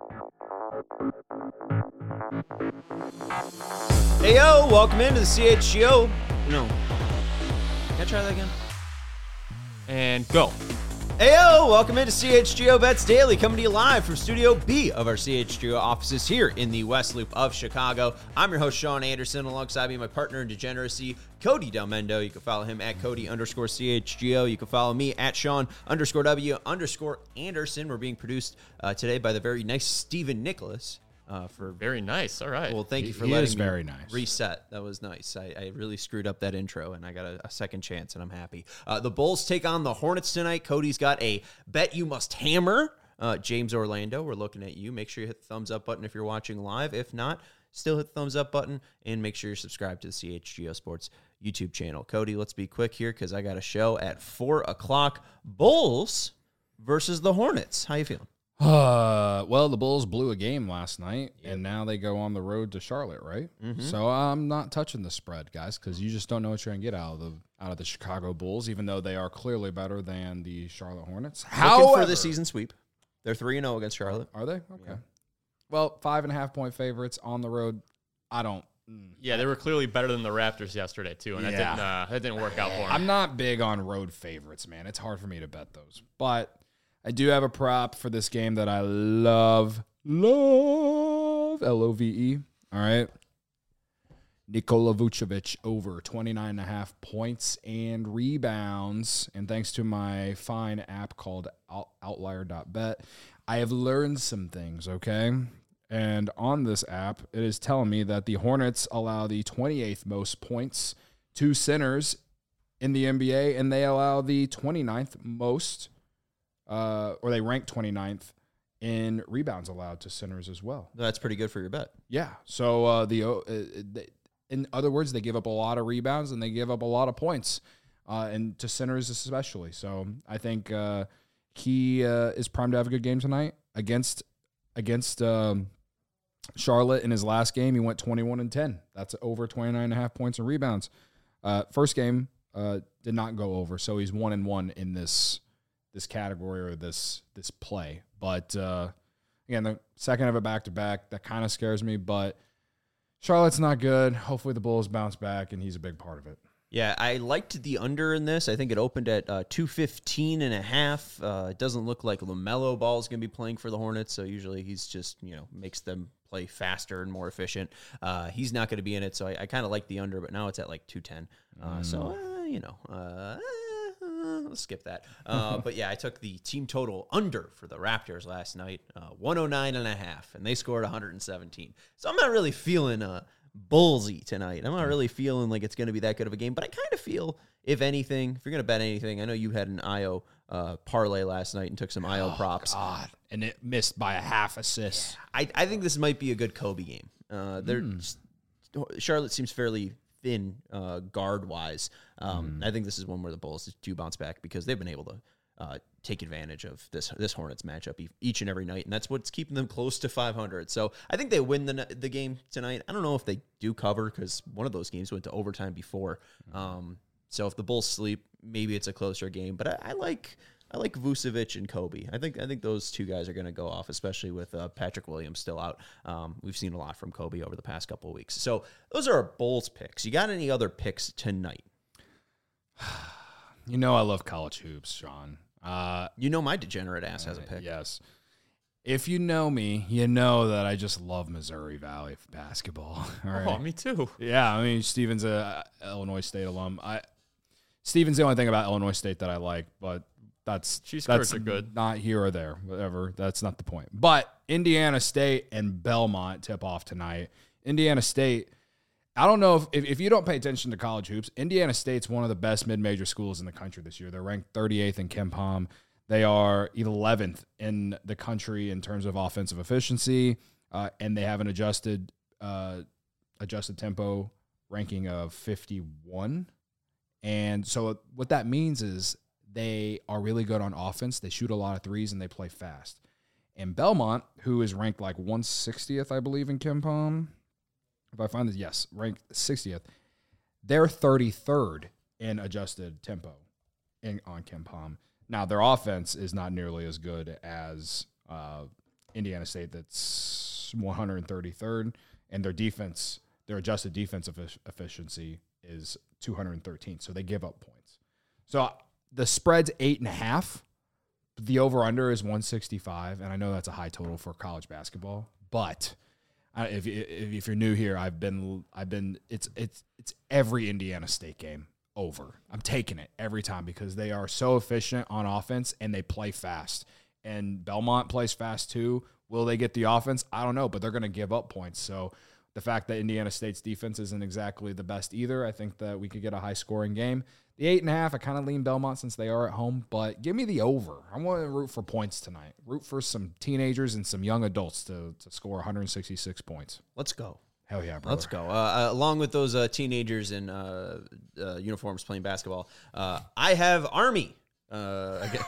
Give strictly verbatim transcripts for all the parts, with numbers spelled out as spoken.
Hey, yo, welcome into the C H G O. No. Can I try that again? And go. Hey, yo, welcome into C H G O Bets Daily, coming to you live from Studio B of our C H G O offices here in the West Loop of Chicago. I'm your host, Sean Anderson, alongside me, my partner in degeneracy, Cody Delmendo. You can follow him at Cody underscore C H G O. You can follow me at Sean underscore W underscore Anderson. We're being produced uh, today by the very nice Stephen Nicholas. Uh, for Very nice. All right. Well, thank you for He letting is me very nice. reset. That was nice. I, I really screwed up that intro, and I got a, a second chance, and I'm happy. Uh, the Bulls take on the Hornets tonight. Cody's got a bet you must hammer. Uh, James Orlando, we're looking at you. Make sure you hit the thumbs up button if you're watching live. If not, still hit the thumbs up button, and make sure you're subscribed to the C H G O Sports YouTube channel. Cody, let's be quick here because I got a show at four o'clock. Bulls versus the Hornets. How you feeling? Uh, well, the Bulls blew a game last night, yep. and now they go on the road to Charlotte, right? Mm-hmm. So I'm not touching the spread, guys, because you just don't know what you're gonna get out of the out of the Chicago Bulls, even though they are clearly better than the Charlotte Hornets. How for the season sweep? They're three and zero against Charlotte. Are they? Okay. Yeah. Well, five and a half point favorites on the road. I don't. Yeah, they were clearly better than the Raptors yesterday too, and yeah. that didn't uh, that didn't work out for them. I'm not big on road favorites, man. It's hard for me to bet those, but I do have a prop for this game that I love. Love. L O V E. All right. Nikola Vucevic over twenty-nine and a half points and rebounds. And thanks to my fine app called outlier dot bet, I have learned some things, okay? And on this app, it is telling me that the Hornets allow the twenty-eighth most points to centers in the N B A, and they allow the twenty-ninth most Uh, or they rank twenty-ninth in rebounds allowed to centers as well. That's pretty good for your bet. Yeah. So uh, the uh, they, in other words, they give up a lot of rebounds and they give up a lot of points, uh, and to centers especially. So I think uh, he uh, is primed to have a good game tonight against against um, Charlotte. In his last game, he went twenty-one and ten. That's over twenty-nine and a half points and rebounds. Uh, first game uh, did not go over, so he's one and one in this. this category or this this play. But, uh, again, the second of it back-to-back, that kind of scares me. But Charlotte's not good. Hopefully the Bulls bounce back, and he's a big part of it. Yeah, I liked the under in this. I think it opened at uh, two fifteen and a half. Uh, it doesn't look like LaMelo Ball is going to be playing for the Hornets, so usually he's just, you know, makes them play faster and more efficient. Uh, he's not going to be in it, so I, I kind of like the under, but now it's at like two ten. Uh, mm. So, uh, you know, uh, let's skip that. Uh, but yeah, I took the team total under for the Raptors last night, uh, one oh nine and a half, and they scored one hundred seventeen. So I'm not really feeling uh, bullsy tonight. I'm not really feeling like it's going to be that good of a game, but I kind of feel, if anything, if you're going to bet anything, I know you had an I O uh, parlay last night and took some I O oh, props. God. And it missed by a half assist. Yeah. I, I think this might be a good Kobe game. Uh, they're mm. just, Charlotte seems fairly thin uh, guard-wise. Um, mm. I think this is one where the Bulls do bounce back because they've been able to uh, take advantage of this this Hornets matchup each and every night, and that's what's keeping them close to five hundred. So I think they win the the game tonight. I don't know if they do cover because one of those games went to overtime before. Mm. Um, so if the Bulls sleep, maybe it's a closer game. But I, I like I like Vucevic and Kobe. I think I think those two guys are going to go off, especially with uh, Patrick Williams still out. Um, we've seen a lot from Kobe over the past couple of weeks. So those are our Bulls picks. You got any other picks tonight? You know I love college hoops, Sean. Uh, you know my degenerate ass has a pick. Yes. If you know me, you know that I just love Missouri Valley basketball. All right? Oh, me too. Yeah, I mean, Steven's a Illinois State alum. I Steven's the only thing about Illinois State that I like, but that's Cheese that's curds are good. Not here or there, whatever. That's not the point. But Indiana State and Belmont tip off tonight. Indiana State, I don't know if, if if you don't pay attention to college hoops, Indiana State's one of the best mid-major schools in the country this year. They're ranked thirty-eighth in KenPom. They are eleventh in the country in terms of offensive efficiency, uh, and they have an adjusted uh, adjusted tempo ranking of fifty-one. And so what that means is they are really good on offense. They shoot a lot of threes, and they play fast. And Belmont, who is ranked like one hundred sixtieth, I believe, in KenPom, if I find this, yes, ranked sixtieth, they're thirty-third in adjusted tempo in, on KenPom. Now, their offense is not nearly as good as uh, Indiana State that's one hundred thirty-third, and their defense, their adjusted defensive efficiency is two hundred thirteenth. So they give up points. So the spread's eight and a half. The over-under is one sixty-five, and I know that's a high total for college basketball. But I, if, if if you're new here, I've been I've been it's it's it's every Indiana State game over. I'm taking it every time because they are so efficient on offense and they play fast. And Belmont plays fast too. Will they get the offense? I don't know, but they're going to give up points. So the fact that Indiana State's defense isn't exactly the best either, I think that we could get a high-scoring game. The eight and a half, I kind of lean Belmont since they are at home, but give me the over. I want to root for points tonight. Root for some teenagers and some young adults to, to score one hundred sixty-six points. Let's go. Hell yeah, brother. Let's go. Uh, uh, along with those uh, teenagers in uh, uh, uniforms playing basketball, uh, I have Army. Uh, again.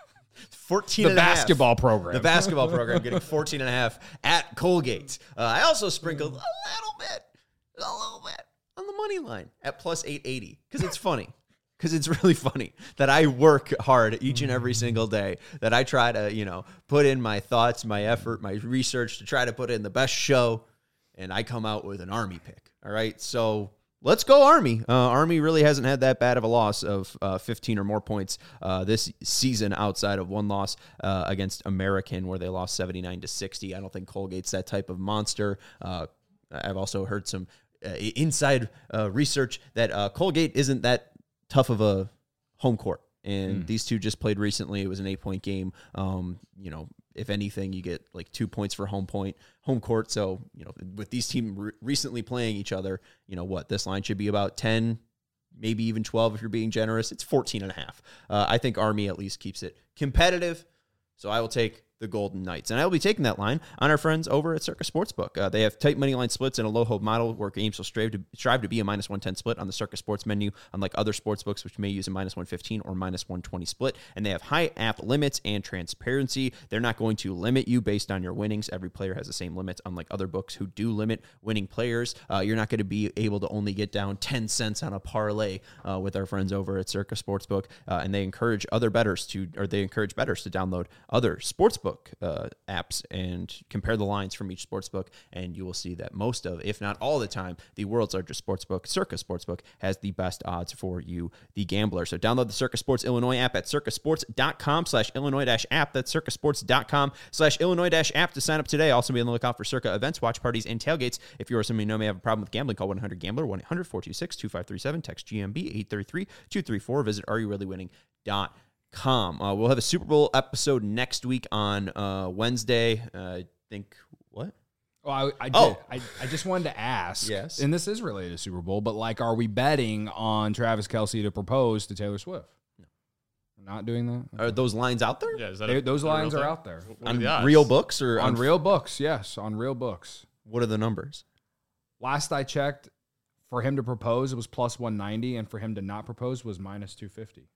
fourteen the and a half. basketball program. The basketball program getting fourteen and a half at Colgate. Uh, I also sprinkled a little bit, a little bit on the money line at plus eight eighty because it's funny. Because it's really funny that I work hard each and every single day, that I try to, you know, put in my thoughts, my effort, my research to try to put in the best show, and I come out with an Army pick. All right, so let's go Army. Uh, Army really hasn't had that bad of a loss of uh, fifteen or more points uh, this season outside of one loss uh, against American where they lost seventy-nine to sixty. I don't think Colgate's that type of monster. Uh, I've also heard some uh, inside uh, research that uh, Colgate isn't that tough of a home court. And mm. these two just played recently. It was an eight-point game. Um, you know, if anything, you get like two points for home point, home court. So, you know, with these teams re- recently playing each other, you know what, this line should be about ten, maybe even twelve if you're being generous. It's fourteen and a half. Uh, I think Army at least keeps it competitive. So I will take the Golden Knights. And I will be taking that line on our friends over at Circa Sportsbook. Uh, they have tight money line splits and a low hope model where games will strive to, strive to be a minus one ten split on the Circa Sports menu, unlike other sportsbooks, which may use a minus one fifteen or minus one twenty split. And they have high app limits and transparency. They're not going to limit you based on your winnings. Every player has the same limits, unlike other books who do limit winning players. Uh, you're not going to be able to only get down ten cents on a parlay uh, with our friends over at Circa Sportsbook. Uh, and they encourage other bettors to, or they encourage bettors to download other sportsbook uh, apps and compare the lines from each sportsbook, and you will see that most of, if not all the time, the world's largest sportsbook, Circa Sportsbook, has the best odds for you, the gambler. So download the Circa Sports Illinois app at circasports.com slash Illinois dash app. That's circasports.com slash Illinois dash app to sign up today. Also be on the lookout for Circa events, watch parties, and tailgates. If you or someone you know may have a problem with gambling, call one eight hundred gambler, one eight hundred four two six two five three seven, text G M B eight three three two three four. Visit are you really winning dot com. Uh, we'll have a Super Bowl episode next week on uh, Wednesday. Uh, I think, what? Well, I, I did. Oh. I, I just wanted to ask. Yes. And this is related to Super Bowl, but like, are we betting on Travis Kelce to propose to Taylor Swift? No. We're not doing that? Are those lines out there? Yeah, is that They, a, those is that a lines real are thing? out there. What are On the odds? real books or On on, real books, yes. On real books. What are the numbers? Last I checked, for him to propose, it was plus one ninety, and for him to not propose was minus two fifty.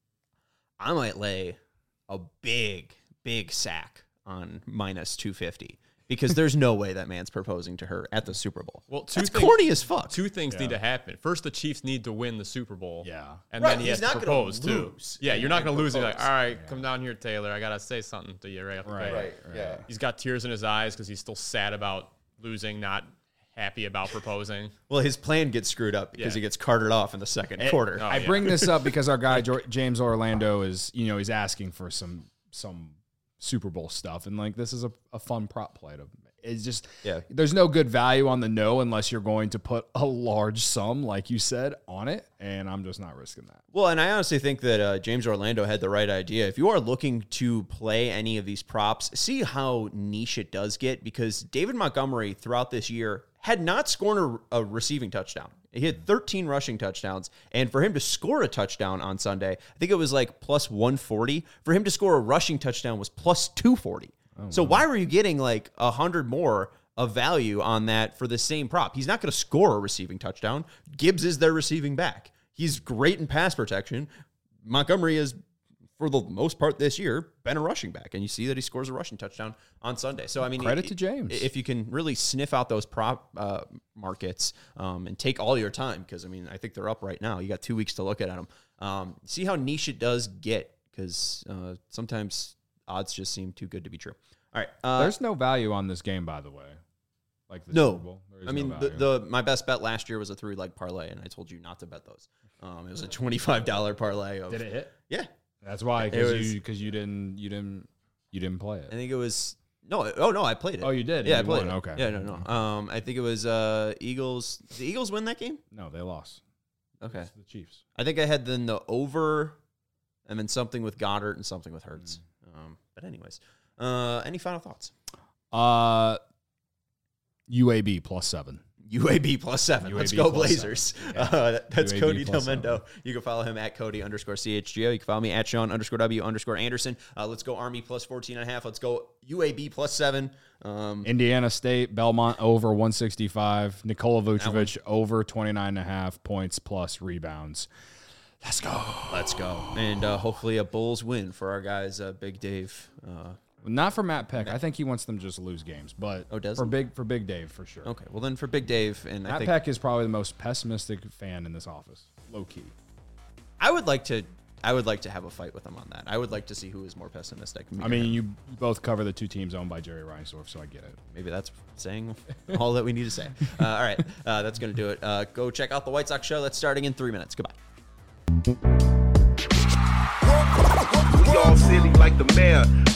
I might lay a big, big sack on minus two fifty because there's no way that man's proposing to her at the Super Bowl. Well, two That's things, corny as fuck. Two things Yeah. need to happen. First, the Chiefs need to win the Super Bowl. Yeah. And Right, then he he's has not to gonna propose, too. lose Yeah, and you're not then going to lose. You're like, propose. all right, Yeah. come down here, Taylor. I got to say something to you right off the Right. bat. Right, yeah. He's got tears in his eyes because he's still sad about losing, not happy about proposing. Well, his plan gets screwed up because Yeah. he gets carted off in the second quarter. oh, I yeah. bring this up because our guy Jo- James Orlando is, you know, he's asking for some some Super Bowl stuff, and like this is a, a fun prop play to. It's just Yeah. there's no good value on the no unless you're going to put a large sum, like you said, on it, and I'm just not risking that. Well, and I honestly think that uh, James Orlando had the right idea. If you are looking to play any of these props, see how niche it does get, because David Montgomery throughout this year had not scored a, a receiving touchdown. He had thirteen rushing touchdowns, and for him to score a touchdown on Sunday, I think it was like plus one forty. For him to score a rushing touchdown was plus two forty. Oh, so wow. Why were you getting like one hundred more of value on that for the same prop? He's not going to score a receiving touchdown. Gibbs is their receiving back. He's great in pass protection. Montgomery is, for the most part this year, been a rushing back, and you see that he scores a rushing touchdown on Sunday. So, I mean, credit it, to James. If you can really sniff out those prop uh, markets um, and take all your time, because, I mean, I think they're up right now. You got two weeks to look at them. Um, see how niche it does get, because uh, sometimes odds just seem too good to be true. All right. Uh, There's no value on this game, by the way. Like the no. Super Bowl. There is I mean, no the, value. the my best bet last year was a three leg parlay, and I told you not to bet those. Um, it was a twenty-five dollar parlay. Of, Did it hit? Yeah. That's why, It because was- you because you didn't you didn't you didn't play it. I think it was no. Oh no, I played it. Oh, you did? Yeah, You I played won. it. Okay. Yeah, no, no. Um, I think it was uh Eagles. Did the Eagles win that game? No, they lost. Okay. It's the Chiefs. I think I had then the over, and then something with Goddard and something with Hurts. Mm. Um, but anyways, uh, any final thoughts? Uh, U A B plus seven. U A B plus seven. U A B Let's go plus Blazers. seven. Yeah. Uh, that- that's U A B Cody plus Delmendo. seven. You can follow him at Cody underscore C H G O. You can follow me at Sean underscore W underscore Anderson. Uh, let's go Army plus fourteen and a half. Let's go U A B plus seven. Um, Indiana State, Belmont over one sixty-five. Nikola Vucevic over twenty-nine and a half points plus rebounds. Let's go. let's go. And uh, hopefully a Bulls win for our guys, uh, Big Dave. Uh, Not for Matt Peck. I think he wants them to just lose games. But Oh, does for he? big for Big Dave for sure. okay, well then for Big Dave, and I Matt think Peck is probably the most pessimistic fan in this office, low key. I would like to. I would like to have a fight with him on that. I would like to see who is more pessimistic. me I or mean, him. you both cover the two teams owned by Jerry Reinsdorf, so I get it. Maybe that's saying all that we need to say. Uh, all right, uh, that's going to do it. Uh, go check out the White Sox show. That's starting in three minutes. Goodbye. We all silly like the mayor.